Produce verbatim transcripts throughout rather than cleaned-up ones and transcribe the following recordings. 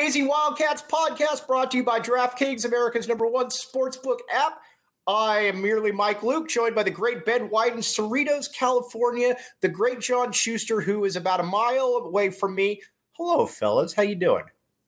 Crazy Wildcats podcast brought to you by DraftKings, America's number one sportsbook app. I am merely Mike Luke, joined by the great Ben White in Cerritos, California, the great John Schuster, who is about a mile away from me. Hello, fellas. How you doing?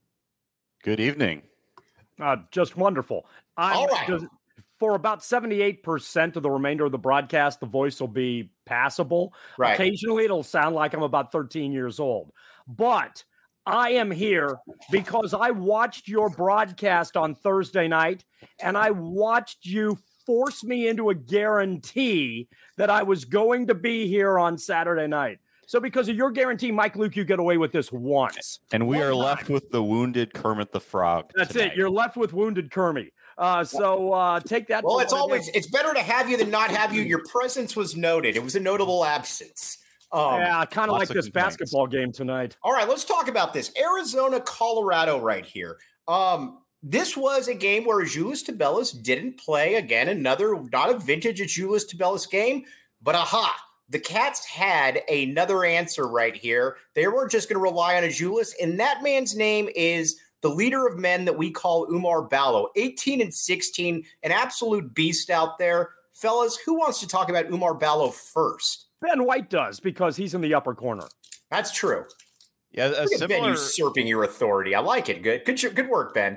Good evening. Uh, just wonderful. I'm, All right. Just, for about seventy-eight percent of the remainder of the broadcast, the voice will be passable. Right. Occasionally, it'll sound like I'm about thirteen years old. But I am here because I watched your broadcast on Thursday night, and I watched you force me into a guarantee that I was going to be here on Saturday night. So because of your guarantee, Mike Luke, you get away with this once. And we One are time. left with the wounded Kermit the Frog. That's tonight. it. You're left with wounded Kermit. Uh, so uh, take that. Well, for it's what it always is. it's better to have you than not have you. Your presence was noted. It was a notable absence. Um, yeah, kind of like lots of this complaints. basketball game tonight. All right, let's talk about this. Arizona, Colorado right here. Um, this was a game where Azuolas Tubelis didn't play. Again, another, not a vintage Azuolas Tubelis game, but aha, the Cats had another answer right here. They weren't just going to rely on Azuolas, and that man's name is the leader of men that we call Oumar Ballo. eighteen and sixteen, an absolute beast out there. Fellas, who wants to talk about Oumar Ballo first? Ben White does because he's in the upper corner. That's true. Yeah, a Look at Ben similar usurping your authority. I like it. Good, good, good work, Ben.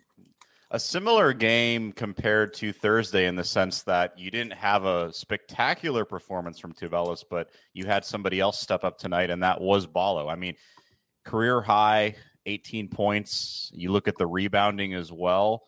a similar game compared to Thursday in the sense that you didn't have a spectacular performance from Tubelis, but you had somebody else step up tonight, and that was Ballo. I mean, career high, eighteen points. You look at the rebounding as well.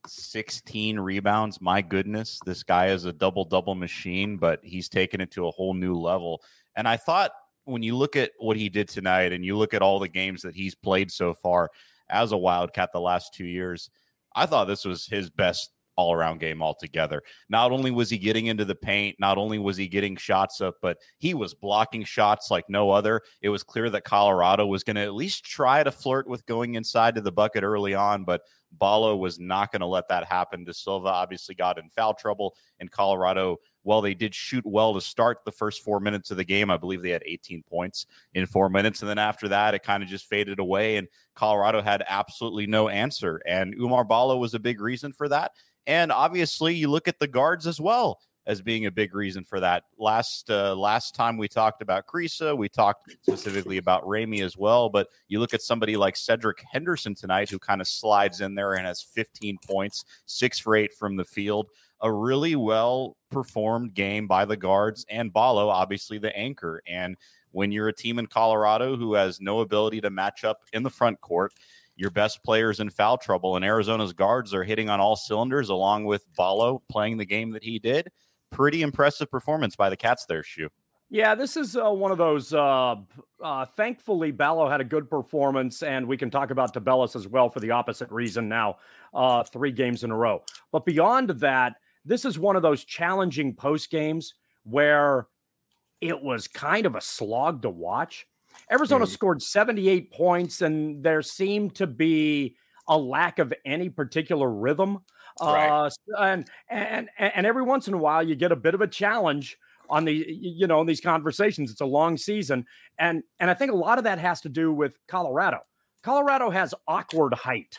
sixteen rebounds. My goodness, this guy is a double-double machine, but he's taken it to a whole new level. And I thought when you look at what he did tonight and you look at all the games that he's played so far as a Wildcat the last two years, I thought this was his best all-around game altogether. Not only was he getting into the paint, not only was he getting shots up, but he was blocking shots like no other. It was clear that Colorado was going to at least try to flirt with going inside to the bucket early on, but Ballo was not going to let that happen. De Silva obviously got in foul trouble, and Colorado, well, they did shoot well to start the first four minutes of the game. I believe they had eighteen points in four minutes, and then after that, it kind of just faded away, and Colorado had absolutely no answer, and Oumar Ballo was a big reason for that. And obviously, you look at the guards as well as being a big reason for that. Last uh, last time we talked about Kriisa, we talked specifically about Ramey as well, but you look at somebody like Cedric Henderson tonight who kind of slides in there and has fifteen points, six for eight from the field. A really well-performed game by the guards, and Ballo, obviously the anchor. And when you're a team in Colorado who has no ability to match up in the front court, your best players in foul trouble, and Arizona's guards are hitting on all cylinders, along with Ballo playing the game that he did. Pretty impressive performance by the Cats there, Shu. Yeah, this is uh, one of those. Uh, uh, thankfully, Ballo had a good performance, and we can talk about Tubelis as well for the opposite reason now, uh, three games in a row. But beyond that, this is one of those challenging post games where it was kind of a slog to watch. Arizona mm. scored seventy-eight points, and there seemed to be a lack of any particular rhythm. Right. Uh, and, and, and every once in a while you get a bit of a challenge on the, you know, in these conversations. It's a long season. And, and I think a lot of that has to do with Colorado. Colorado has awkward height.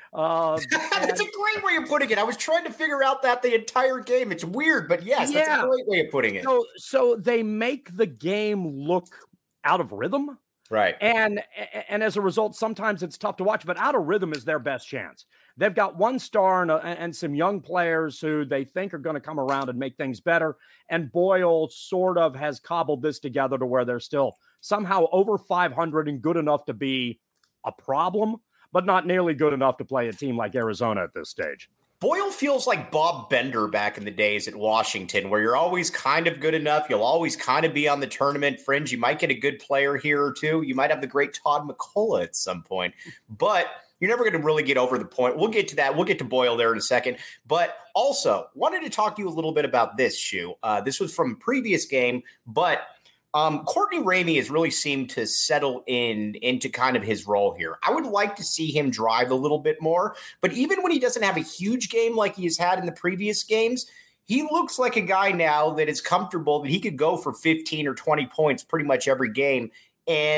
Uh, That's a great way of putting it. I was trying to figure out that the entire game. It's weird, but yes, yeah. that's a great way of putting it. So, so they make the game look out of rhythm. Right. And, and as a result, sometimes it's tough to watch, but out of rhythm is their best chance. They've got one star and, a, and some young players who they think are going to come around and make things better. And Boyle sort of has cobbled this together to where they're still somehow over five hundred and good enough to be a problem, but not nearly good enough to play a team like Arizona at this stage. Boyle feels like Bob Bender back in the days at Washington, where you're always kind of good enough. You'll always kind of be on the tournament fringe. You might get a good player here or two. You might have the great Todd McCullough at some point, but you're never going to really get over the point. We'll get to that. We'll get to Boyle there in a second. But also, wanted to talk to you a little bit about this, Shu. Uh, this was from a previous game, but Um, Courtney Ramey has really seemed to settle in into kind of his role here. I would like to see him drive a little bit more, but even when he doesn't have a huge game like he has had in the previous games, he looks like a guy now that is comfortable that he could go for fifteen or twenty points pretty much every game. And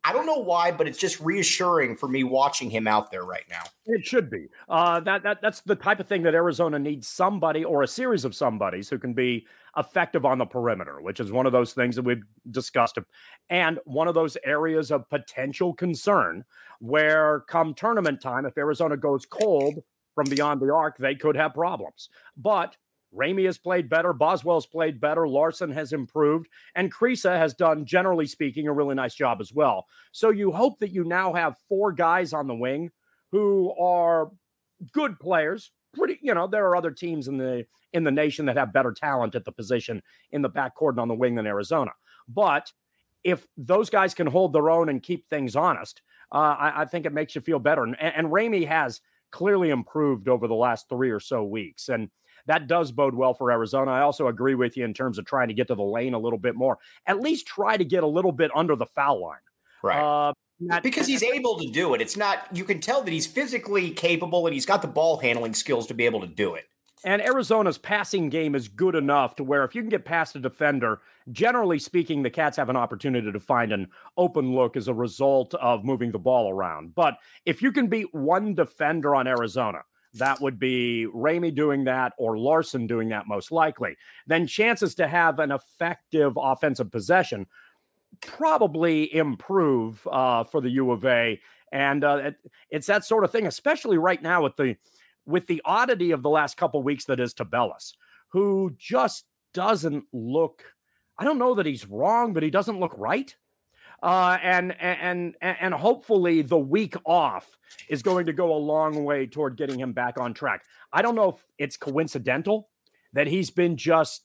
I don't know why, but it's just reassuring for me watching him out there right now. It should be. Uh, that that that's the type of thing that Arizona needs, somebody or a series of somebodies who can be effective on the perimeter, which is one of those things that we've discussed, and one of those areas of potential concern where come tournament time, if Arizona goes cold from beyond the arc, they could have problems. But Ramey has played better. Boswell's played better. Larson has improved. And Kriisa has done, generally speaking, a really nice job as well. So you hope that you now have four guys on the wing who are good players. Pretty, you know, there are other teams in the in the nation that have better talent at the position in the backcourt and on the wing than Arizona. But if those guys can hold their own and keep things honest, uh, I, I think it makes you feel better. And, and Ramey has clearly improved over the last three or so weeks. And that does bode well for Arizona. I also agree with you in terms of trying to get to the lane a little bit more. At least try to get a little bit under the foul line. Right. Uh, that, because he's able to do it. It's not, you can tell that he's physically capable and he's got the ball handling skills to be able to do it. And Arizona's passing game is good enough to where if you can get past a defender, generally speaking, the Cats have an opportunity to find an open look as a result of moving the ball around. But if you can beat one defender on Arizona, that would be Ramey doing that or Larson doing that most likely, then chances to have an effective offensive possession probably improve uh, for the U of A. And uh, it, it's that sort of thing, especially right now with the with the oddity of the last couple of weeks that is Tubelis, who just doesn't look, I don't know that he's wrong, but he doesn't look right. Uh, and, and, and hopefully the week off is going to go a long way toward getting him back on track. I don't know if it's coincidental that he's been just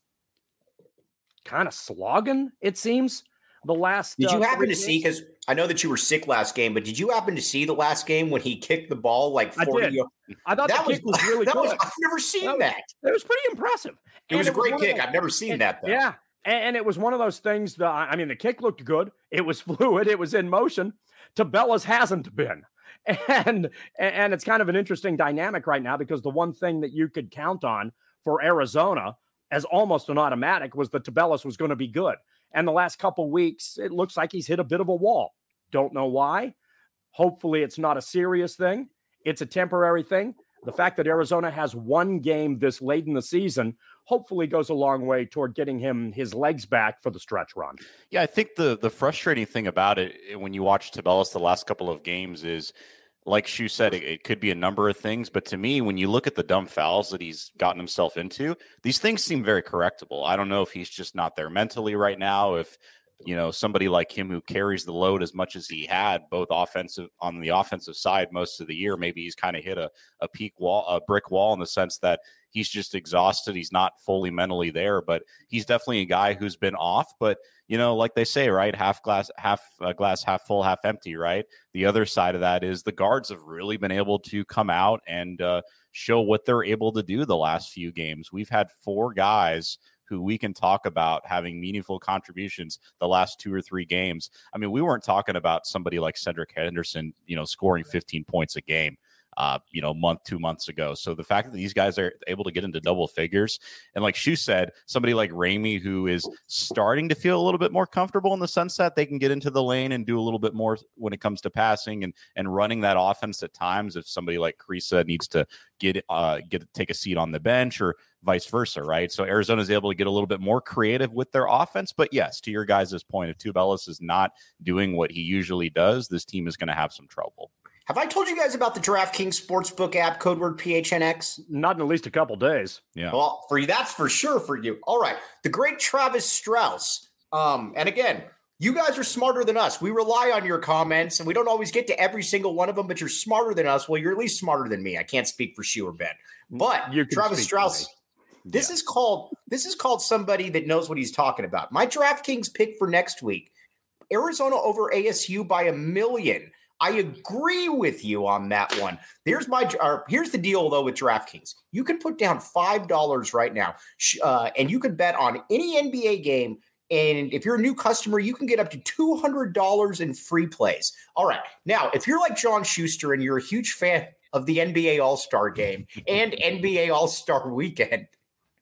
kind of slogging, it seems, the last. Did you uh, happen to games. see, because I know that you were sick last game, but did you happen to see the last game when he kicked the ball like forty? I did. I thought that the kick was, was really that good. Was, I've never seen that. that. Was, it was pretty impressive. It was and a great was kick. Those, I've never seen and, that, though. Yeah. And it was one of those things that, I mean, the kick looked good. It was fluid. It was in motion. Tubelis hasn't been. And, and it's kind of an interesting dynamic right now because the one thing that you could count on for Arizona as almost an automatic was that Tubelis was going to be good. And the last couple weeks, it looks like he's hit a bit of a wall. Don't know why. Hopefully it's not a serious thing. It's a temporary thing. The fact that Arizona has one game this late in the season hopefully goes a long way toward getting him his legs back for the stretch run. Yeah, I think the the frustrating thing about it when you watch Tubelis the last couple of games is, like Shu said, it, it could be a number of things. But to me, when you look at the dumb fouls that he's gotten himself into, these things seem very correctable. I don't know if he's just not there mentally right now, if you know, somebody like him who carries the load as much as he had, both offensive on the offensive side most of the year, maybe he's kind of hit a, a peak wall, a brick wall in the sense that he's just exhausted. He's not fully mentally there, but he's definitely a guy who's been off. But, you know, like they say, right, half glass, half uh, glass, half full, half empty, right? The other side of that is the guards have really been able to come out and uh, show what they're able to do the last few games. We've had four guys who we can talk about having meaningful contributions the last two or three games. I mean, we weren't talking about somebody like Cedric Henderson, you know, scoring fifteen points a game, uh, you know, month, two months ago. So the fact that these guys are able to get into double figures, and like Shu said, somebody like Ramey, who is starting to feel a little bit more comfortable in the sense that they can get into the lane and do a little bit more when it comes to passing and, and running that offense at times. If somebody like Kriisa needs to get, uh, get, take a seat on the bench or vice versa, right? So Arizona is able to get a little bit more creative with their offense. But yes, to your guys' point, if Tubelis is not doing what he usually does, this team is going to have some trouble. Have I told you guys about the DraftKings Sportsbook app, code word P H N X? Not in at least a couple days. Yeah. Well, for you, that's for sure for you. All right. The great Travis Strauss. Um, and again, you guys are smarter than us. We rely on your comments, and we don't always get to every single one of them, but you're smarter than us. Well, you're at least smarter than me. I can't speak for Shu or Ben. But you Travis Strauss, this yeah. is called this is called somebody that knows what he's talking about. My DraftKings pick for next week, Arizona over A S U by a million. I agree with you on that one. There's my or here's the deal though with DraftKings. You can put down five dollars right now, uh, and you can bet on any N B A game. And if you're a new customer, you can get up to two hundred dollars in free plays. All right. Now, if you're like John Schuster and you're a huge fan of the N B A All-Star game and N B A All-Star weekend,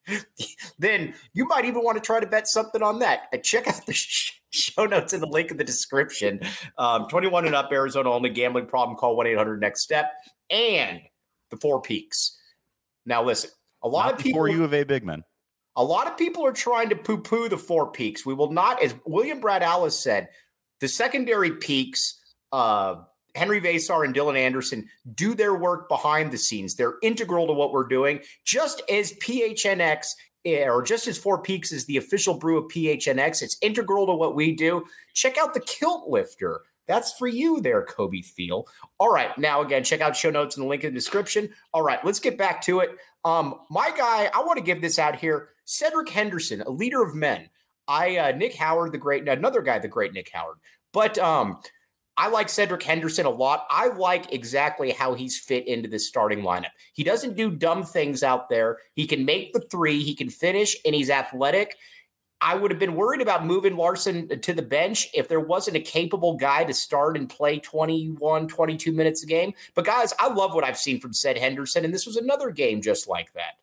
then you might even want to try to bet something on that. Uh, check out the sh- show notes in the link in the description. Um, twenty-one and up, Arizona only. Gambling problem, call one eight hundred next step. And the Four Peaks. Now, listen, a lot Not of people. For U of A big men. A lot of people are trying to poo-poo the Four Peaks. We will not, as William Brad Allis said, the secondary peaks, uh, Henry Vasar and Dylan Anderson, do their work behind the scenes. They're integral to what we're doing, just as P H N X, or just as Four Peaks is the official brew of P H N X. It's integral to what we do. Check out the Kilt Lifter. That's for you there, Kobe Thiel. All right. Now, again, check out show notes in the link in the description. All right. Let's get back to it. Um, my guy, I want to give this out here. Cedric Henderson, a leader of men. I, uh, Nick Howard, the great, another guy, the great Nick Howard. But um, I like Cedric Henderson a lot. I like exactly how he's fit into this starting lineup. He doesn't do dumb things out there. He can make the three. He can finish, and he's athletic. I would have been worried about moving Larson to the bench if there wasn't a capable guy to start and play twenty-one, twenty-two minutes a game. But, guys, I love what I've seen from Ced Henderson, and this was another game just like that.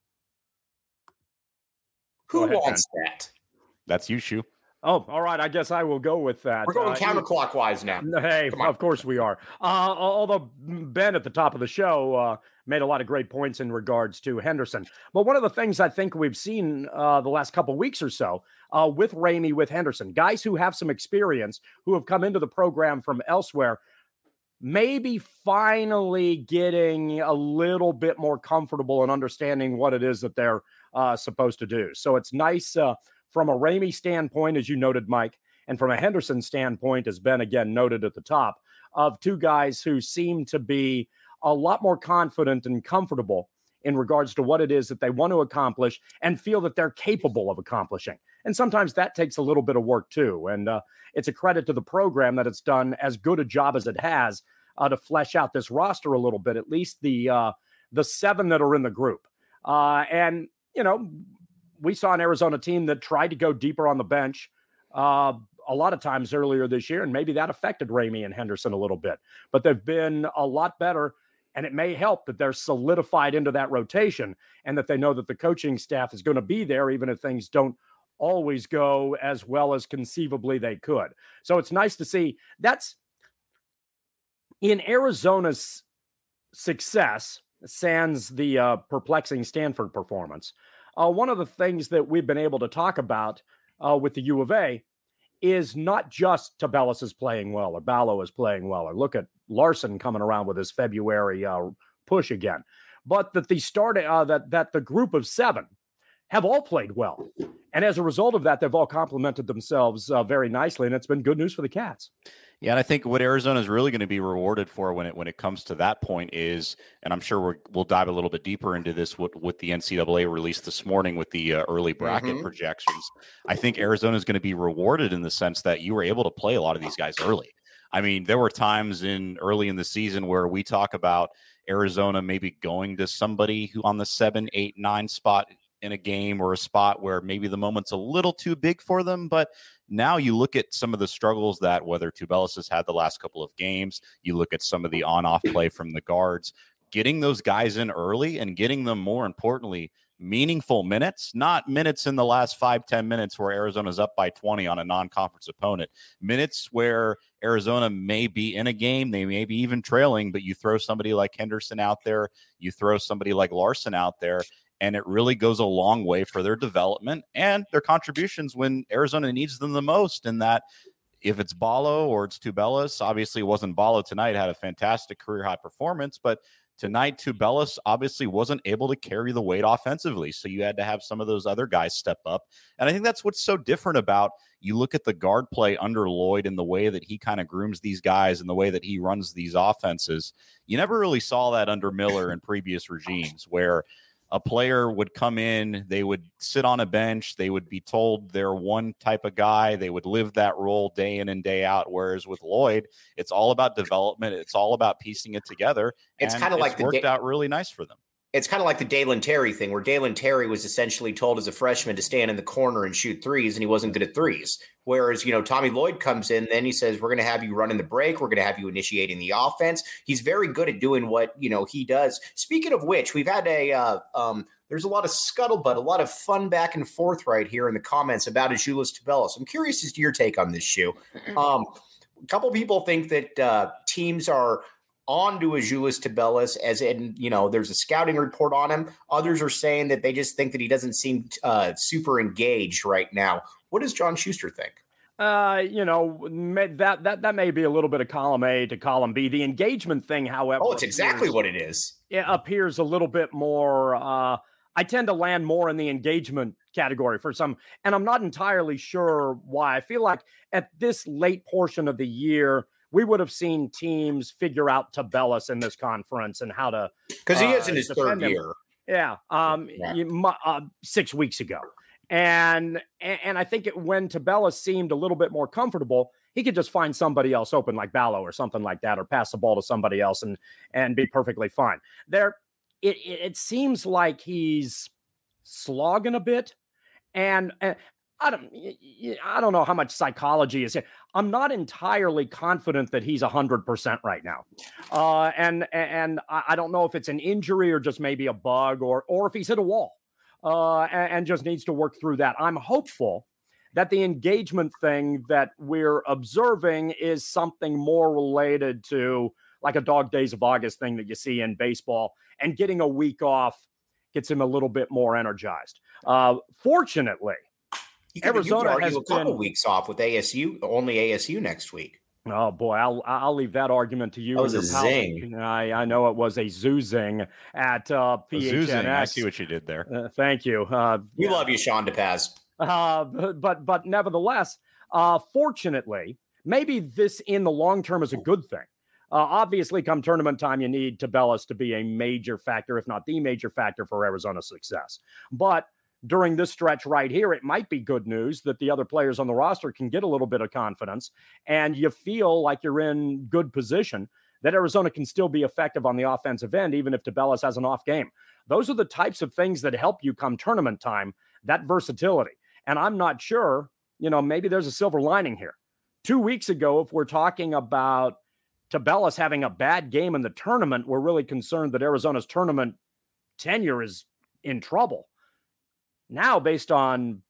Who ahead, wants Ben. that? That's you, Shu. Oh, all right. I guess I will go with that. We're going Uh, counterclockwise now. Hey, Come on. of course we are. Uh, although Ben at the top of the show uh, made a lot of great points in regards to Henderson. But one of the things I think we've seen uh, the last couple weeks or so uh, with Ramey, with Henderson, guys who have some experience, who have come into the program from elsewhere, maybe finally getting a little bit more comfortable and understanding what it is that they're uh, supposed to do. So it's nice uh, from a Ramey standpoint, as you noted, Mike, and from a Henderson standpoint, as Ben again noted at the top, of two guys who seem to be a lot more confident and comfortable in regards to what it is that they want to accomplish and feel that they're capable of accomplishing. And sometimes that takes a little bit of work too. And uh, it's a credit to the program that it's done as good a job as it has uh, to flesh out this roster a little bit, at least the uh, the seven that are in the group. Uh, and, you know, we saw an Arizona team that tried to go deeper on the bench uh, a lot of times earlier this year, and maybe that affected Ramey and Henderson a little bit. But they've been a lot better, and it may help that they're solidified into that rotation and that they know that the coaching staff is going to be there even if things don't always go as well as conceivably they could. So it's nice to see. That's in Arizona's success, sans the uh, perplexing Stanford performance. Uh, one of the things that we've been able to talk about uh, with the U of A is not just Tubelis is playing well or Ballo is playing well, or look at Larson coming around with his February uh, push again, but that the start uh, that that the group of seven have all played well, and as a result of that, they've all complemented themselves uh, very nicely, and it's been good news for the Cats. Yeah, and I think what Arizona is really going to be rewarded for when it when it comes to that point is, and I'm sure we're, we'll dive a little bit deeper into this with, with the N C double A release this morning with the uh, early bracket Mm-hmm. projections. I think Arizona is going to be rewarded in the sense that you were able to play a lot of these guys early. I mean, there were times in early in the season where we talk about Arizona maybe going to somebody who on the seven, eight, nine spot in a game, or a spot where maybe the moment's a little too big for them. But now you look at some of the struggles that whether Tubelis has had the last couple of games, you look at some of the on-off play from the guards, getting those guys in early and getting them, more importantly, meaningful minutes, not minutes in the last five, ten minutes where Arizona's up by twenty on a non-conference opponent, minutes where Arizona may be in a game, they may be even trailing, but you throw somebody like Henderson out there, you throw somebody like Larson out there, and it really goes a long way for their development and their contributions when Arizona needs them the most. And that if it's Ballo or it's Tubelis, obviously it wasn't Ballo tonight, had a fantastic career high performance, but tonight Tubelis obviously wasn't able to carry the weight offensively. So you had to have some of those other guys step up. And I think that's what's so different about, you look at the guard play under Lloyd and the way that he kind of grooms these guys and the way that he runs these offenses. You never really saw that under Miller in previous regimes, where a player would come in, they would sit on a bench, they would be told they're one type of guy, they would live that role day in and day out. Whereas with Lloyd, it's all about development, it's all about piecing it together. It's and kind of like it's the worked da- out really nice for them. it's kind of like the Dalen Terry thing, where Dalen Terry was essentially told as a freshman to stand in the corner and shoot threes, and he wasn't good at threes. Whereas, you know, Tommy Lloyd comes in, then he says, we're going to have you running the break. We're going to have you initiating the offense. He's very good at doing what, you know, he does. Speaking of which, we've had a uh, um, there's a lot of scuttlebutt, a lot of fun back and forth right here in the comments about Azuolas Tubelis. I'm curious as to your take on this, Shu. Um, a couple people think that uh, teams are on to Azuolas Tubelis, as in, you know, there's a scouting report on him. Others are saying that they just think that he doesn't seem uh, super engaged right now. What does John Schuster think? Uh, you know, that that that may be a little bit of column A to column B. The engagement thing, however, oh, it's exactly appears, what it is. It appears a little bit more. Uh, I tend to land more in the engagement category for some, and I'm not entirely sure why. I feel like at this late portion of the year, we would have seen teams figure out Tubelis in this conference and how to, because he uh, is in his third him. year. Yeah, um, yeah. You, uh, six weeks ago, and and I think it, when Tubelis seemed a little bit more comfortable, he could just find somebody else open, like Ballo or something like that, or pass the ball to somebody else and and be perfectly fine. There, it it, it seems like he's slogging a bit, and. and I don't, I don't know how much psychology is here. I'm not entirely confident that he's one hundred percent right now. Uh, and and I don't know if it's an injury or just maybe a bug, or or if he's hit a wall uh, and, and just needs to work through that. I'm hopeful that the engagement thing that we're observing is something more related to like a dog days of August thing that you see in baseball, and getting a week off gets him a little bit more energized. Uh, fortunately, Could, Arizona has a couple been, weeks off with A S U, only A S U next week. Oh boy, I'll I'll leave that argument to you. That was a zing. I, I know it was a zoozing at uh, P H N X. Zoozing. I see what you did there. Uh, thank you. Uh, we yeah. love you, Sean DePaz. Uh, but but nevertheless, uh, fortunately, maybe this in the long term is a good thing. Uh, obviously, come tournament time, you need Tubelis to be a major factor, if not the major factor, for Arizona's success. But during this stretch right here, it might be good news that the other players on the roster can get a little bit of confidence, and you feel like you're in good position that Arizona can still be effective on the offensive end, even if Tubelis has an off game. Those are the types of things that help you come tournament time, that versatility. And I'm not sure, you know, maybe there's a silver lining here. Two weeks ago, if we're talking about Tubelis having a bad game in the tournament, we're really concerned that Arizona's tournament tenure is in trouble. Now, based on,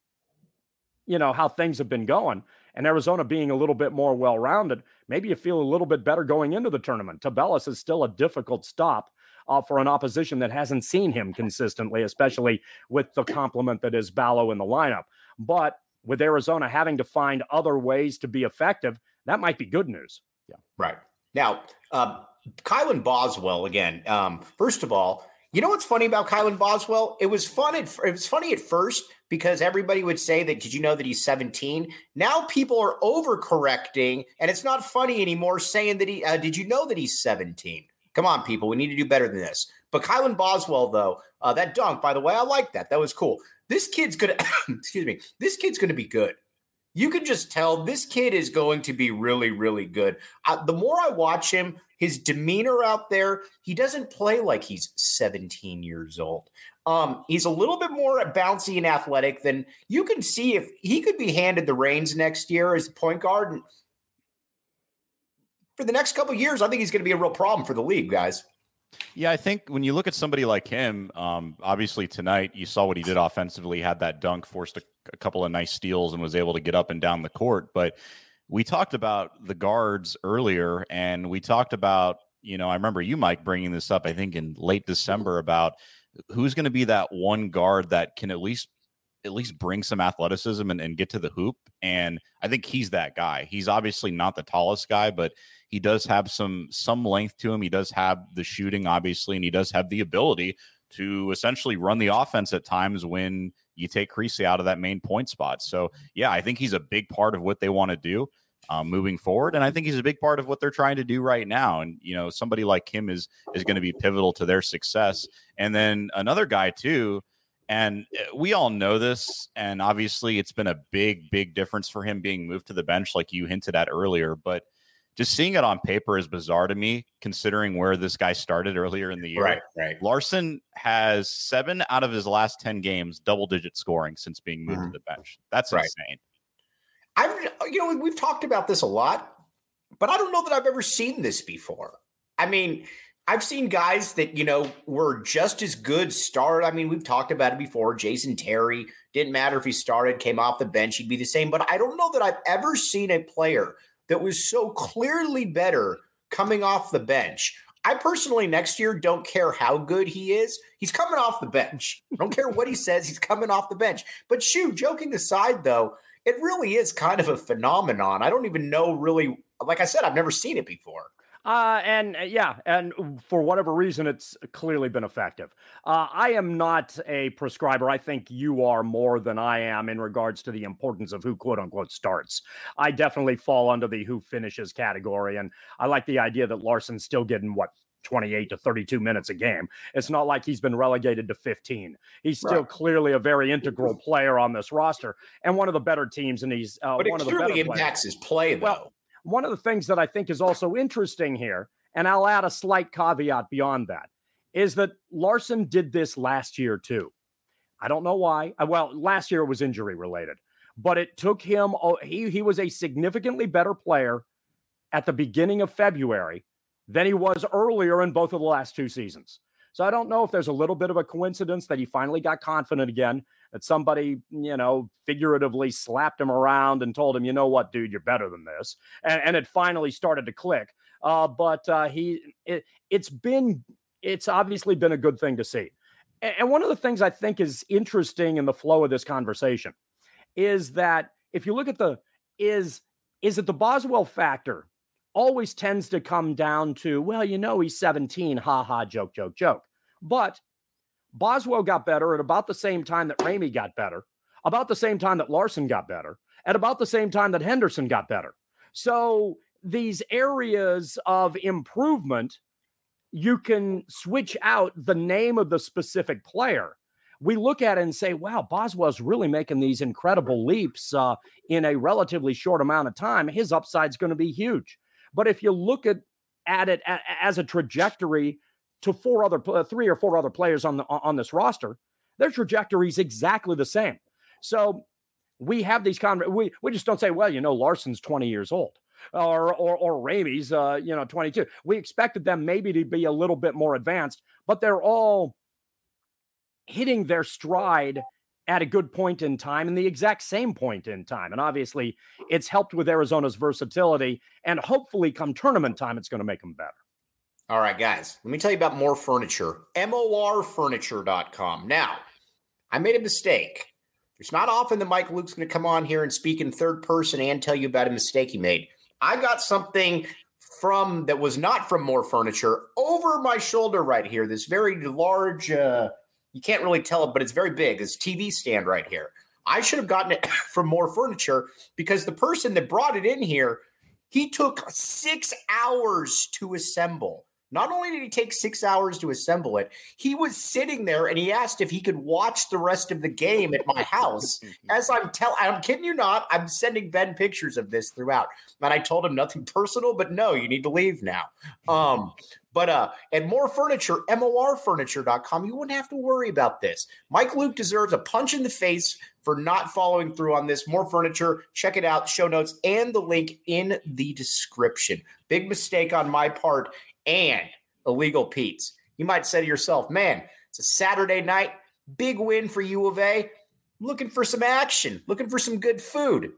you know, how things have been going and Arizona being a little bit more well-rounded, maybe you feel a little bit better going into the tournament. Tubelis is still a difficult stop uh, for an opposition that hasn't seen him consistently, especially with the complement that is Ballo in the lineup. But with Arizona having to find other ways to be effective, that might be good news. Yeah, right. Now, uh, Kylan Boswell, again, um, first of all, you know what's funny about Kylan Boswell? It was fun. At, it was funny at first because everybody would say that, did you know that he's seventeen? Now people are overcorrecting, and it's not funny anymore saying that he, uh, did you know that he's seventeen? Come on, people. We need to do better than this. But Kylan Boswell, though, uh, that dunk, by the way, I like that. That was cool. This kid's going to, excuse me, this kid's going to be good. You can just tell this kid is going to be really, really good. Uh, the more I watch him, his demeanor out there, he doesn't play like he's seventeen years old. Um, he's a little bit more bouncy and athletic than you can see. If he could be handed the reins next year as the point guard, and for the next couple of years, I think he's going to be a real problem for the league, guys. Yeah, I think when you look at somebody like him, um, obviously tonight you saw what he did offensively, had that dunk, forced a, a couple of nice steals, and was able to get up and down the court. But we talked about the guards earlier, and we talked about, you know, I remember you, Mike, bringing this up, I think in late December, about who's going to be that one guard that can at least at least bring some athleticism and, and get to the hoop. And I think he's that guy. He's obviously not the tallest guy, but he does have some some length to him. He does have the shooting, obviously, and he does have the ability to essentially run the offense at times when you take Creasy out of that main point spot. So, yeah, I think he's a big part of what they want to do um, moving forward. And I think he's a big part of what they're trying to do right now. And, you know, somebody like him is is going to be pivotal to their success. And then another guy, too, and we all know this, and obviously it's been a big, big difference for him being moved to the bench like you hinted at earlier. But just seeing it on paper is bizarre to me, considering where this guy started earlier in the year. Right, right. Larson has seven out of his last ten games, double-digit scoring since being moved Mm-hmm. to the bench. That's right. insane. I've, you know, we've talked about this a lot, but I don't know that I've ever seen this before. I mean, I've seen guys that, you know, were just as good start. I mean, we've talked about it before. Jason Terry, didn't matter if he started, came off the bench, he'd be the same. But I don't know that I've ever seen a player that was so clearly better coming off the bench. I personally, next year, don't care how good he is. He's coming off the bench. I don't care what he says. He's coming off the bench. But shoot, joking aside, though, it really is kind of a phenomenon. I don't even know really, like I said, I've never seen it before. Uh, and uh, yeah, and for whatever reason, it's clearly been effective. Uh, I am not a prescriber. I think you are more than I am in regards to the importance of who quote unquote starts. I definitely fall under the who finishes category. And I like the idea that Larson's still getting what, twenty-eight to thirty-two minutes a game. It's not like he's been relegated to fifteen. He's still right. clearly a very integral player on this roster and one of the better teams. And he's uh, but one it of the better clearly impacts players. his play, though. Well, one of the things that I think is also interesting here, and I'll add a slight caveat beyond that, is that Larson did this last year too. I don't know why. Well, last year it was injury related, but it took him, he, he was a significantly better player at the beginning of February than he was earlier in both of the last two seasons. So I don't know if there's a little bit of a coincidence that he finally got confident again, that somebody, you know, figuratively slapped him around and told him, you know what, dude, you're better than this. And, and it finally started to click. Uh, but uh, he, it, it's been, it's obviously been a good thing to see. And, and one of the things I think is interesting in the flow of this conversation is that if you look at the, is, is it the Boswell factor always tends to come down to, well, you know, he's seventeen, ha ha, joke, joke, joke. But Boswell got better at about the same time that Ramey got better, about the same time that Larson got better, at about the same time that Henderson got better. So these areas of improvement, you can switch out the name of the specific player. We look at it and say, wow, Boswell's really making these incredible leaps uh, in a relatively short amount of time. His upside's going to be huge. But if you look at, at it a, as a trajectory to four other, uh, three or four other players on the on this roster, their trajectory is exactly the same. So we have these con- we we just don't say, well, you know, Larson's twenty years old, or or or Ramey's uh, you know, twenty-two. We expected them maybe to be a little bit more advanced, but they're all hitting their stride at a good point in time and the exact same point in time. And obviously it's helped with Arizona's versatility, and hopefully come tournament time, it's going to make them better. All right, guys, let me tell you about More Furniture, M O R furniture dot com. Now, I made a mistake. It's not often that Mike Luke's going to come on here and speak in third person and tell you about a mistake he made. I got something from that was not from More Furniture over my shoulder right here, this very large, uh, you can't really tell it, but it's very big, this T V stand right here. I should have gotten it from More Furniture because the person that brought it in here, he took six hours to assemble. Not only did he take six hours to assemble it, he was sitting there and he asked if he could watch the rest of the game at my house. As I'm telling, I'm kidding you not, I'm sending Ben pictures of this throughout. And I told him nothing personal, but no, you need to leave now. Um, but uh, at More Furniture, M O R furniture dot com, you wouldn't have to worry about this. Mike Luke deserves a punch in the face for not following through on this. More Furniture, check it out, show notes, and the link in the description. Big mistake on my part. And Illegal Pete's. You might say to yourself, man, it's a Saturday night, big win for U of A. Looking for some action, looking for some good food.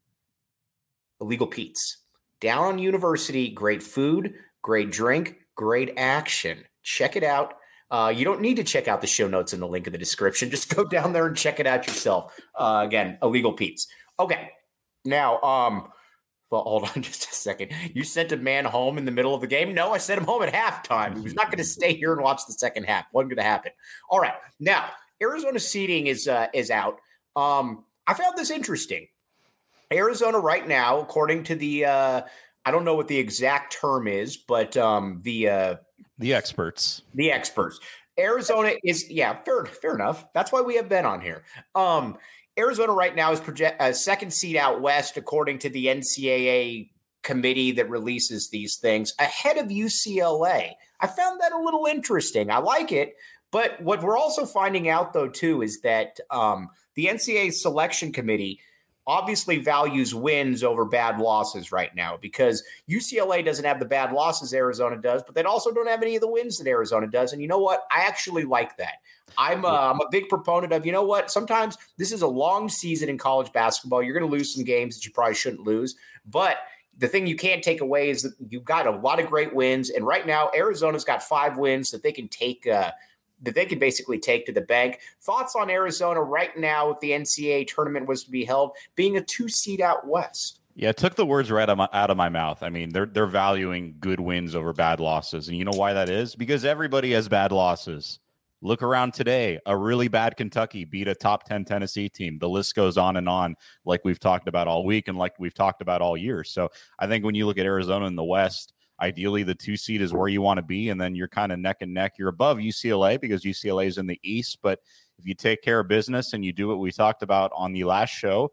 Illegal Pete's. Down on University, great food, great drink, great action. Check it out. Uh, you don't need to check out the show notes in the link in the description. Just go down there and check it out yourself. Uh, again, Illegal Pete's. Okay, now, um, well, hold on just a second. You sent a man home in the middle of the game? No, I sent him home at halftime. He was not going to stay here and watch the second half. Wasn't going to happen. All right. Now, Arizona seeding is uh, is out. Um, I found this interesting. Arizona right now, according to the, uh, I don't know what the exact term is, but um, the uh, the experts, the experts. Arizona is, yeah, fair, fair enough. That's why we have Ben on here. Um, Arizona right now is project a uh, second seed out west, according to the N C double A committee that releases these things ahead of U C L A. I found that a little interesting. I like it. But what we're also finding out, though, too, is that um, the N C double A selection committee obviously values wins over bad losses right now, because U C L A doesn't have the bad losses Arizona does, but they also don't have any of the wins that Arizona does. And you know what? I actually like that. I'm a, I'm a big proponent of, you know what? Sometimes this is a long season in college basketball. You're going to lose some games that you probably shouldn't lose. But the thing you can't take away is that you've got a lot of great wins. And right now, Arizona's got five wins that they can take uh, – that they could basically take to the bank. Thoughts on Arizona right now, if the N C double A tournament was to be held, being a two seed out west? Yeah, it took the words right out of, my, out of my mouth. I mean, they're they're valuing good wins over bad losses. And you know why that is? Because everybody has bad losses. Look around today. A really bad Kentucky beat a top ten Tennessee team. The list goes on and on, like we've talked about all week and like we've talked about all year. So I think when you look at Arizona in the West, ideally, the two seed is where you want to be, and then you're kind of neck and neck. You're above U C L A because U C L A is in the East. But if you take care of business and you do what we talked about on the last show,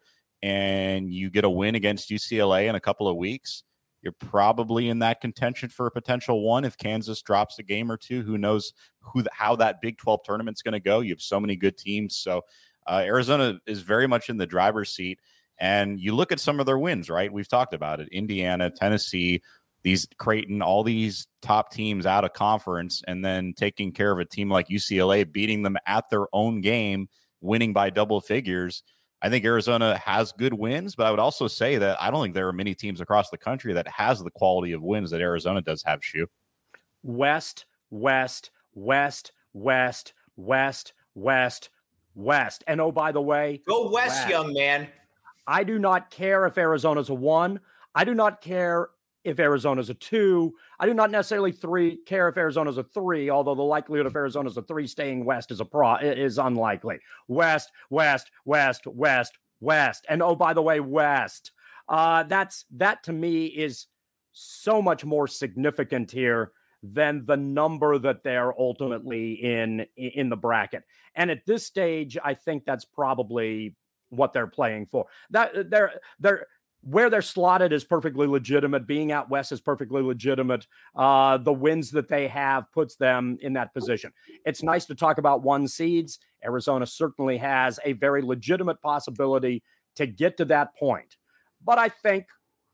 and you get a win against U C L A in a couple of weeks, you're probably in that contention for a potential one. If Kansas drops a game or two, who knows who how that Big twelve tournament's going to go. You have so many good teams. So uh, Arizona is very much in the driver's seat. And you look at some of their wins, right? We've talked about it. Indiana, Tennessee, these Creighton, all these top teams out of conference, and then taking care of a team like U C L A, beating them at their own game, winning by double figures. I think Arizona has good wins, but I would also say that I don't think there are many teams across the country that has the quality of wins that Arizona does have, Shu. West, West, West, West, West, West, West. And oh, by the way, go West, West. Young man. I do not care if Arizona's a one. I do not care if Arizona's a two. I do not necessarily three care if Arizona's a three, although the likelihood of Arizona's a three staying west is a pro is unlikely. West, West, West, West, West. And oh, by the way, West. Uh, that's that to me is so much more significant here than the number that they're ultimately in in the bracket. And at this stage, I think that's probably what they're playing for. That they're they're where they're slotted is perfectly legitimate. Being out west is perfectly legitimate. Uh, the wins that they have puts them in that position. It's nice to talk about one seeds. Arizona certainly has a very legitimate possibility to get to that point. But I think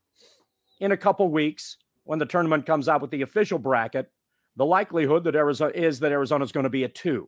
in a couple weeks, when the tournament comes out with the official bracket, the likelihood that Arizona is that Arizona is going to be a two.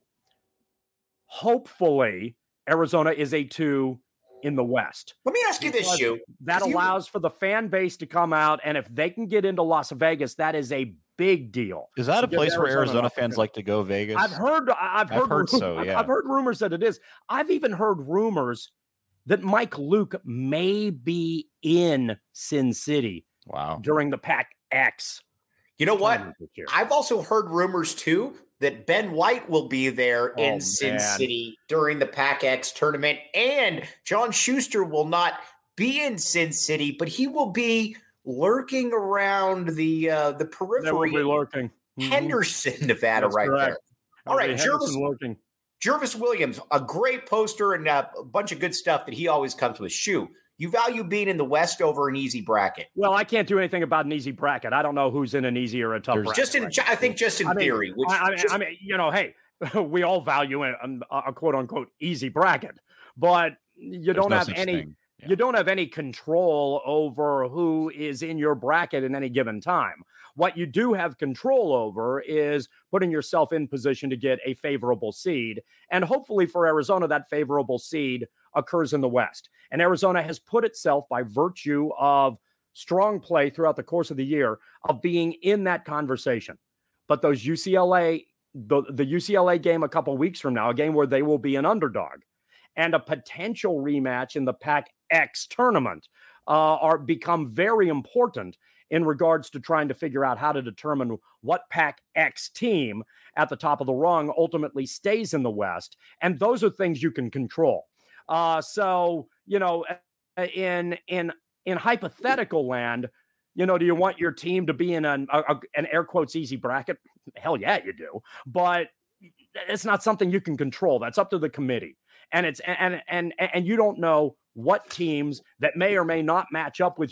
Hopefully, Arizona is a two in the West. Let me ask you this, Shu. That allows for the fan base to come out, and if they can get into Las Vegas, that is a big deal. Is that a place Arizona where Arizona fans like to go, Vegas? I've heard, I've heard, I've heard so. Yeah, I've heard rumors that it is. I've even heard rumors that Mike Luke may be in Sin City. Wow. During the Pac X. You know what? I've also heard rumors too that Ben White will be there oh, in Sin man. City during the Pac X tournament, and John Schuster will not be in Sin City, but he will be lurking around the uh, the periphery. That will be lurking. Henderson, mm-hmm. Nevada, That's right correct. there. All right, Jervis, lurking. Jervis Williams, a great poster and a bunch of good stuff that he always comes with. Shu, you value being in the West over an easy bracket. Well, I can't do anything about an easy bracket. I don't know who's in an easy or a tough There's bracket. Just in, right I think just in I mean, theory. Which I, I, just, I mean, you know, hey, we all value a, a quote unquote easy bracket, but you don't no have any. Yeah. You don't have any control over who is in your bracket in any given time. What you do have control over is putting yourself in position to get a favorable seed. And hopefully for Arizona, that favorable seed occurs in the West. And Arizona has put itself, by virtue of strong play throughout the course of the year, of being in that conversation. But those U C L A, the, the U C L A game a couple weeks from now, a game where they will be an underdog, and a potential rematch in the Pac X tournament uh, are become very important in regards to trying to figure out how to determine what Pac X team at the top of the rung ultimately stays in the West. And those are things you can control. Uh, so, you know, in in in hypothetical land, you know, do you want your team to be in an, a, an air quotes easy bracket? Hell yeah, you do. But it's not something you can control. That's up to the committee. And it's and and and you don't know what teams that may or may not match up with you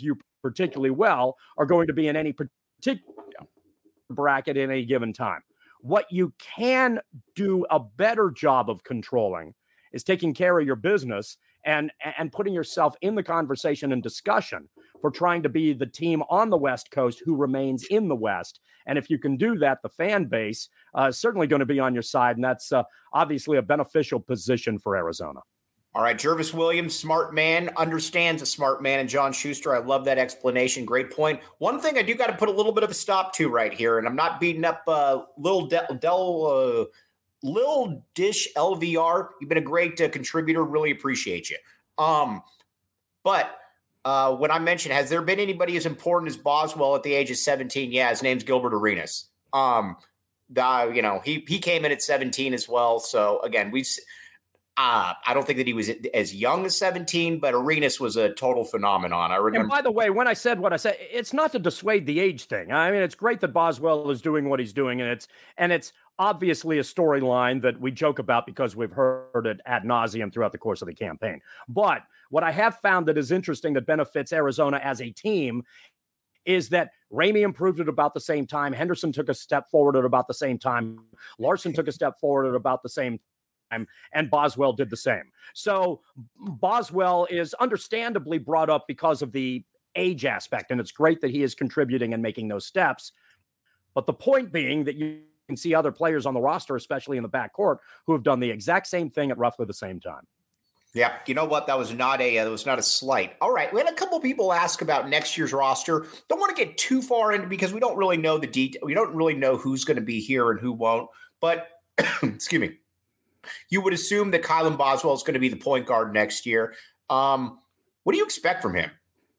particularly well are going to be in any particular bracket in any given time. What you can do a better job of controlling is taking care of your business and, and putting yourself in the conversation and discussion for trying to be the team on the West Coast who remains in the West. And if you can do that, the fan base uh, is certainly going to be on your side. And that's uh, obviously a beneficial position for Arizona. All right, Jervis Williams, smart man, understands a smart man, and John Schuster, I love that explanation. Great point. One thing I do got to put a little bit of a stop to right here, and I'm not beating up uh, Lil Del, Del uh, Lil Dish L V R. You've been a great uh, contributor. Really appreciate you. Um, but uh, when I mentioned, has there been anybody as important as Boswell at the age of seventeen? Yeah, his name's Gilbert Arenas. Um, the, you know, he he came in at seventeen as well. So again, we've. Uh, I don't think that he was as young as seventeen, but Arenas was a total phenomenon. I remember. And by the way, when I said what I said, it's not to dissuade the age thing. I mean, it's great that Boswell is doing what he's doing, and it's and it's obviously a storyline that we joke about because we've heard it ad nauseum throughout the course of the campaign. But what I have found that is interesting that benefits Arizona as a team is that Ramey improved at about the same time. Henderson took a step forward at about the same time. Larson took a step forward at about the same time. And Boswell did the same. So Boswell is understandably brought up because of the age aspect, and it's great that he is contributing and making those steps. But the point being that you can see other players on the roster, especially in the backcourt, who have done the exact same thing at roughly the same time. Yeah, you know what? That was not a uh, that was not a slight. All right, we had a couple people ask about next year's roster. Don't want to get too far into because we don't really know the detail. We don't really know who's going to be here and who won't. But excuse me. You would assume that Kylan Boswell is going to be the point guard next year. Um, what do you expect from him?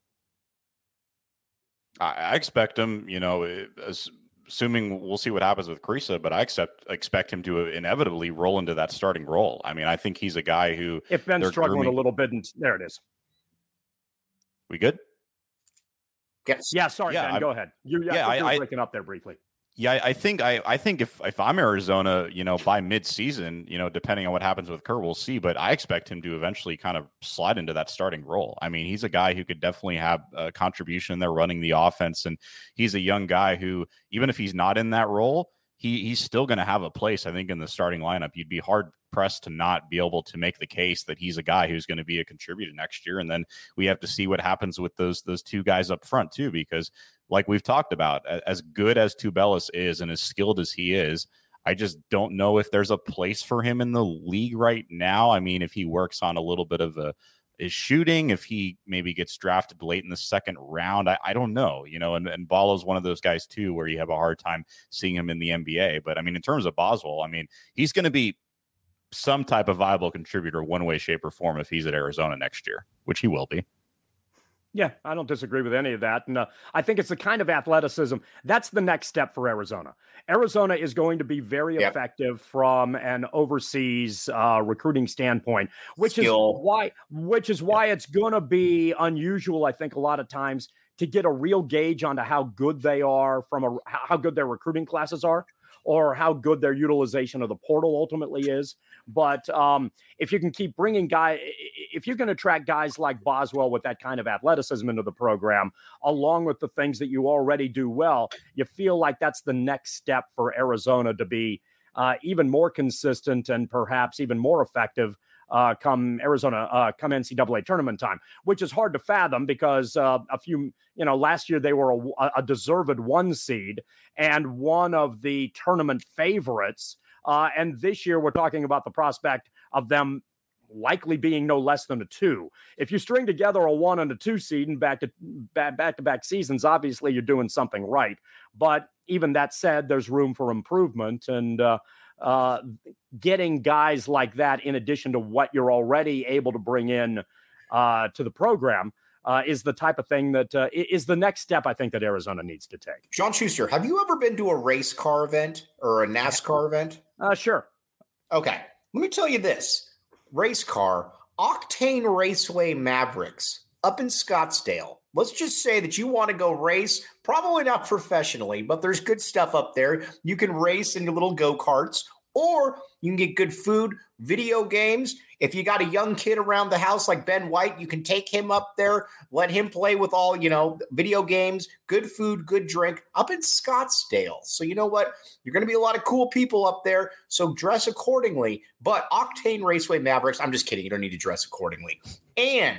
I expect him, you know, as, assuming we'll see what happens with Kriisa, but I accept, expect him to inevitably roll into that starting role. I mean, I think he's a guy who... If Ben's struggling grooming, a little bit, and there it is. We good? Yes. Yeah, sorry, yeah, Ben, I'm, go ahead. You, yeah, yeah I, you were I, breaking up there briefly. Yeah, I think I, I think if, if I'm Arizona, you know, by mid-season, you know, depending on what happens with Kerr, we'll see. But I expect him to eventually kind of slide into that starting role. I mean, he's a guy who could definitely have a contribution there running the offense. And he's a young guy who, even if he's not in that role, he he's still going to have a place, I think, in the starting lineup. You'd be hard-pressed to not be able to make the case that he's a guy who's going to be a contributor next year. And then we have to see what happens with those those two guys up front, too, because like we've talked about, as good as Tubelis is and as skilled as he is, I just don't know if there's a place for him in the league right now. I mean, if he works on a little bit of a, his shooting, if he maybe gets drafted late in the second round, I, I don't know, you know, and, and Ballo's one of those guys too, where you have a hard time seeing him in the N B A. But I mean, in terms of Boswell, I mean, he's going to be some type of viable contributor one way, shape or form if he's at Arizona next year, which he will be. Yeah, I don't disagree with any of that. And uh, I think it's the kind of athleticism that's the next step for Arizona. Arizona is going to be very yep. effective from an overseas uh, recruiting standpoint, which Skill. is why which is why it's going to be unusual, I think, a lot of times to get a real gauge onto how good they are from a how good their recruiting classes are, or how good their utilization of the portal ultimately is. But um, if you can keep bringing guys, if you can attract guys like Boswell with that kind of athleticism into the program, along with the things that you already do well, you feel like that's the next step for Arizona to be uh, even more consistent and perhaps even more effective uh, come Arizona, uh, come N C double A tournament time, which is hard to fathom because uh, a few, you know, last year they were a, a deserved one seed and one of the tournament favorites. Uh, and this year we're talking about the prospect of them likely being no less than a two. If you string together a one and a two seed and back to back, back to back seasons, obviously you're doing something right. But even that said, there's room for improvement, and uh, uh, getting guys like that in addition to what you're already able to bring in uh, to the program uh, is the type of thing that uh, is the next step I think that Arizona needs to take. John Schuster, have you ever been to a race car event or a NASCAR event? Uh, sure. Okay. Let me tell you this. Race car, Octane Raceway Mavericks up in Scottsdale. Let's just say that you want to go race, probably not professionally, but there's good stuff up there. You can race in your little go-karts, or you can get good food, video games. If you got a young kid around the house like Ben White, you can take him up there, let him play with all, you know, video games, good food, good drink up in Scottsdale. So you know what? You're going to be a lot of cool people up there, so dress accordingly. But Octane Raceway Mavericks, I'm just kidding. You don't need to dress accordingly. And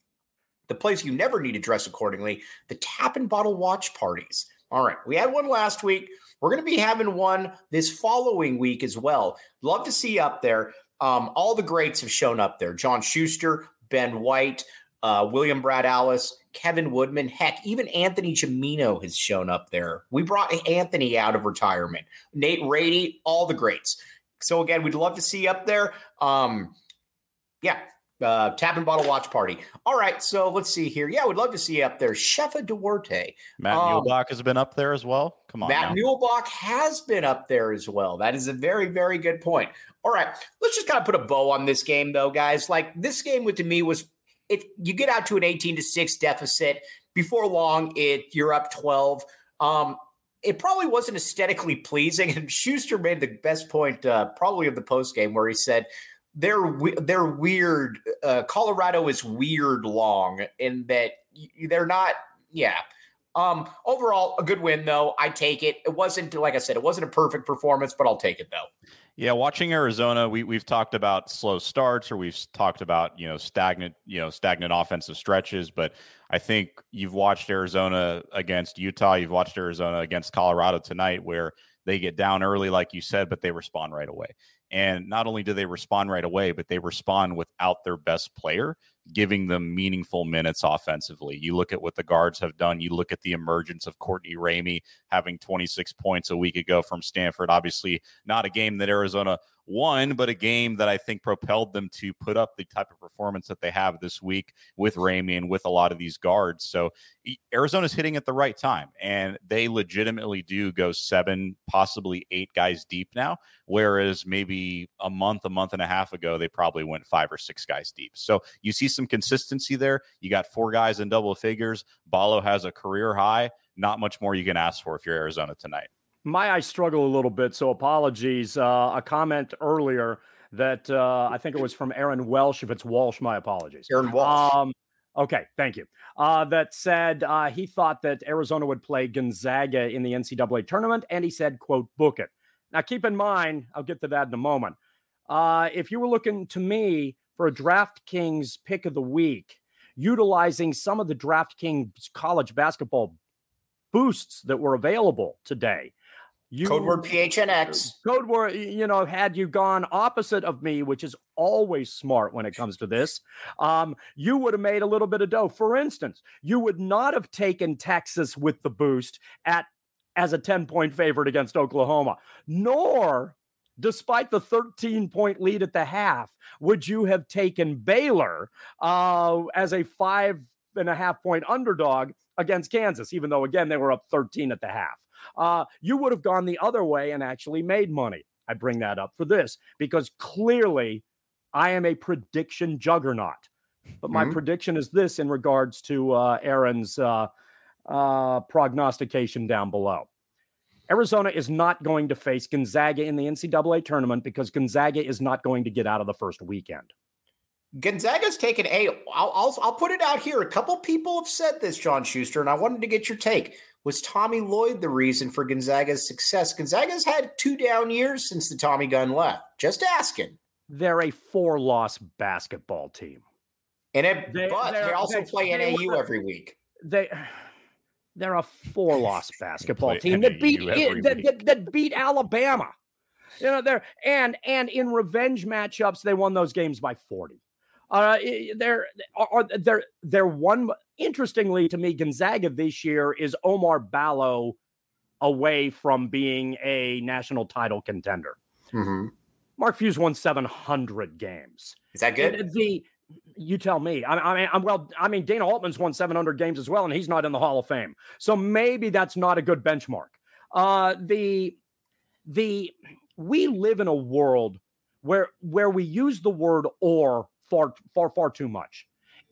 the place you never need to dress accordingly, the Tap and Bottle watch parties. All right, we had one last week. We're going to be having one this following week as well. Love to see you up there. Um, all the greats have shown up there. John Schuster, Ben White, uh, William Brad Alice, Kevin Woodman. Heck, even Anthony Gimino has shown up there. We brought Anthony out of retirement. Nate Rady, all the greats. So again, we'd love to see you up there. Um, yeah, uh, Tap and Bottle watch party. All right, so let's see here. Yeah, we'd love to see you up there. Shefa Duarte. Matt um, Muehlbach has been up there as well. Come on, Matt now. Muehlbach has been up there as well. That is a very, very good point. All right, let's just kind of put a bow on this game, though, guys. Like, this game with to me was, if you get out to an eighteen to six deficit, before long, it you're up twelve. Um, it probably wasn't aesthetically pleasing, and Schuster made the best point uh, probably of the post game, where he said they're they're weird. Uh, Colorado is weird long in that they're not. Yeah. Um, overall, a good win, though. I take it. It wasn't, like I said, it wasn't a perfect performance, but I'll take it, though. Yeah, watching Arizona, we we've talked about slow starts, or we've talked about, you know, stagnant, you know, stagnant offensive stretches. But I think you've watched Arizona against Utah, you've watched Arizona against Colorado tonight, where they get down early, like you said, but they respond right away. And not only do they respond right away, but they respond without their best player, giving them meaningful minutes offensively. You look at what the guards have done. You look at the emergence of Courtney Ramey having twenty-six points a week ago from Stanford. Obviously, not a game that Arizona won, but a game that I think propelled them to put up the type of performance that they have this week with Ramey and with a lot of these guards. So Arizona's hitting at the right time, and they legitimately do go seven, possibly eight guys deep now, whereas maybe a month, a month and a half ago, they probably went five or six guys deep. So you see some consistency there. You got four guys in double figures. Ballo has a career high. Not much more you can ask for if you're Arizona tonight. My eyes struggle a little bit, so apologies. Uh, a comment earlier that uh, I think it was from Aaron Welsh. If it's Walsh, my apologies. Aaron Walsh. Um, okay, thank you. Uh, that said, uh, he thought that Arizona would play Gonzaga in the N C double A tournament, and he said, quote, book it. Now, keep in mind, I'll get to that in a moment. Uh, if you were looking to me for a DraftKings pick of the week, utilizing some of the DraftKings college basketball boosts that were available today, You, Code word P H N X. Code word, you know, had you gone opposite of me, which is always smart when it comes to this, um, you would have made a little bit of dough. For instance, you would not have taken Texas with the boost at as a ten-point favorite against Oklahoma, nor, despite the thirteen-point lead at the half, would you have taken Baylor uh, as a five and a half point underdog against Kansas, even though, again, they were up thirteen at the half. Uh, you would have gone the other way and actually made money. I bring that up for this because clearly I am a prediction juggernaut. But my mm-hmm. prediction is this in regards to uh, Aaron's uh, uh, prognostication down below. Arizona is not going to face Gonzaga in the N C double A tournament because Gonzaga is not going to get out of the first weekend. Gonzaga's taken a, I'll, I'll, I'll put it out here. A couple people have said this, John Schuster, and I wanted to get your take. Was Tommy Lloyd the reason for Gonzaga's success? Gonzaga's had two down years since the Tommy Gunn left. Just asking. They're a four-loss basketball team. And it, they, but they also they, play they, N A U every week. They, they're a four-loss basketball team that beat it, that, that, that beat Alabama. You know, they're and and in revenge matchups, they won those games by forty. Uh, they're are they're they're one. Interestingly, to me, Gonzaga this year is Omar Ballo away from being a national title contender. Mm-hmm. Mark Few's won seven hundred games. Is that good? The you tell me. I, I mean, I'm well. I mean, Dana Altman's won seven hundred games as well, and he's not in the Hall of Fame. So maybe that's not a good benchmark. Uh, the the we live in a world where where we use the word "or" far far far too much.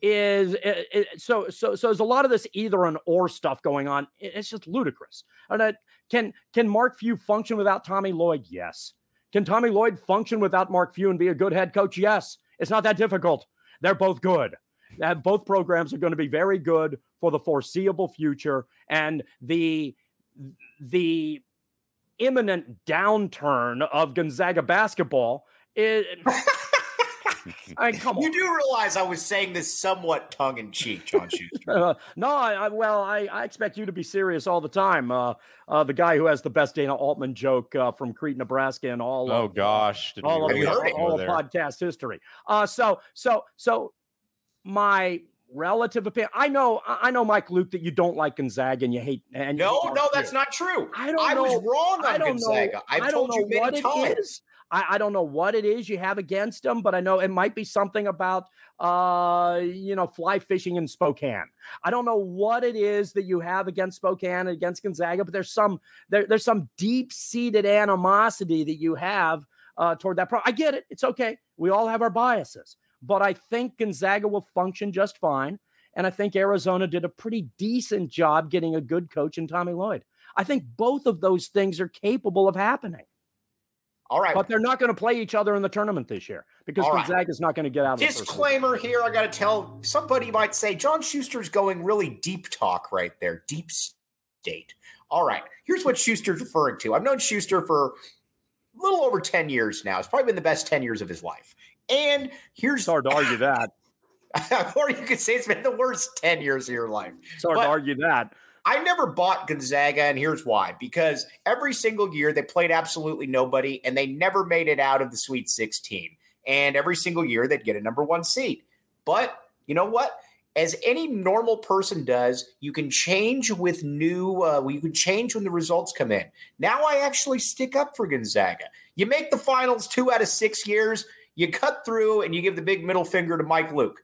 Is it, it, so so so there's a lot of this either and or stuff going on. It, it's just ludicrous. And uh, can can Mark Few function without Tommy Lloyd? Yes. Can Tommy Lloyd function without Mark Few and be a good head coach? Yes. It's not that difficult. They're both good. Uh, both programs are going to be very good for the foreseeable future. And the the imminent downturn of Gonzaga basketball is... I mean, come on. You do realize I was saying this somewhat tongue-in-cheek, John Schuster. uh, no, I, I, well, I, I expect you to be serious all the time. Uh, uh, the guy who has the best Dana Altman joke uh, from Crete, Nebraska, and all oh of, gosh, uh, all, of, really all, all of podcast history. Uh, so, so, so, my relative opinion. I know, I know, Mike Luke, that you don't like Gonzaga and you hate. And no, you no, that's not true. I don't. I know, was wrong on I don't Gonzaga. Know, I've I don't told know you many what times. It is. I, I don't know what it is you have against them, but I know it might be something about, uh, you know, fly fishing in Spokane. I don't know what it is that you have against Spokane and against Gonzaga, but there's some there, there's some deep-seated animosity that you have uh, toward that. Pro- I get it. It's okay. We all have our biases, but I think Gonzaga will function just fine, and I think Arizona did a pretty decent job getting a good coach in Tommy Lloyd. I think both of those things are capable of happening. All right. But they're not going to play each other in the tournament this year because All Gonzaga is not going to get out of the Disclaimer here, I got to tell, somebody might say, John Schuster's going really deep talk right there, deep state. All right, here's what Schuster's referring to. I've known Schuster for a little over ten years now. It's probably been the best ten years of his life. And here's... It's hard to argue that. Or you could say it's been the worst ten years of your life. It's hard but, to argue that. I never bought Gonzaga, and here's why. Because every single year they played absolutely nobody, and they never made it out of the Sweet sixteen. And every single year they'd get a number one seed. But you know what? As any normal person does, you can change with new uh, – you can change when the results come in. Now I actually stick up for Gonzaga. You make the finals two out of six years, you cut through, and you give the big middle finger to Mike Luke.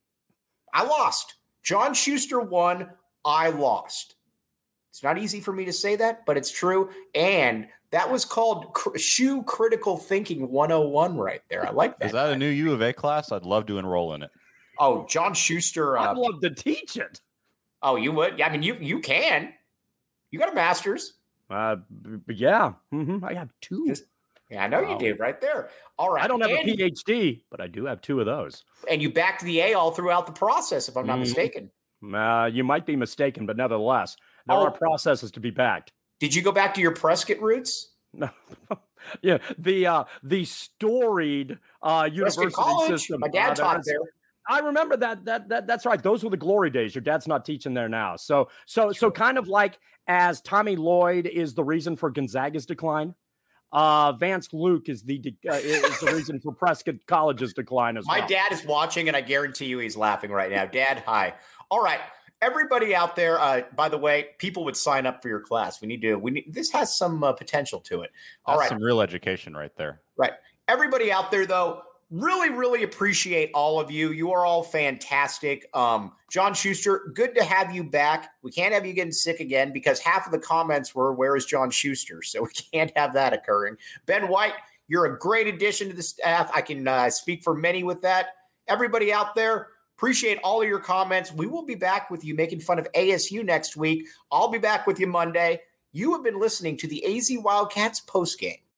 I lost. John Schuster won. I lost. It's not easy for me to say that, but it's true. And that was called cr- shoe critical thinking one oh one right there. I like that. Is that a new U of A class? I'd love to enroll in it. Oh, John Schuster. Uh, I'd love to teach it. Oh, you would? Yeah, I mean, you you can. You got a master's. Uh, b- yeah. Mm-hmm. I have two. Just, yeah, I know wow. you did right there. All right. I don't have and, a P H D, but I do have two of those. And you backed the A all throughout the process, if I'm not mm-hmm. mistaken. Uh, you might be mistaken, but nevertheless, there oh, are processes to be backed. Did you go back to your Prescott roots? No. yeah, the uh, the storied uh, university College. system. My dad uh, taught there. I remember that. That that that's right. Those were the glory days. Your dad's not teaching there now. So so so kind of like as Tommy Lloyd is the reason for Gonzaga's decline. Uh, Vance Luke is the uh, is the reason for Prescott College's decline as My well. My dad is watching, and I guarantee you he's laughing right now. Dad, hi. All right, everybody out there. Uh, by the way, people would sign up for your class. We need to. We need. This has some uh, potential to it. All That's right, some real education right there. Right. Everybody out there, though, really, really appreciate all of you. You are all fantastic. Um, John Schuster, good to have you back. We can't have you getting sick again because half of the comments were, where is John Schuster? So we can't have that occurring. Ben White, you're a great addition to the staff. I can uh, speak for many with that. Everybody out there, appreciate all of your comments. We will be back with you making fun of A S U next week. I'll be back with you Monday. You have been listening to the A Z Wildcats postgame.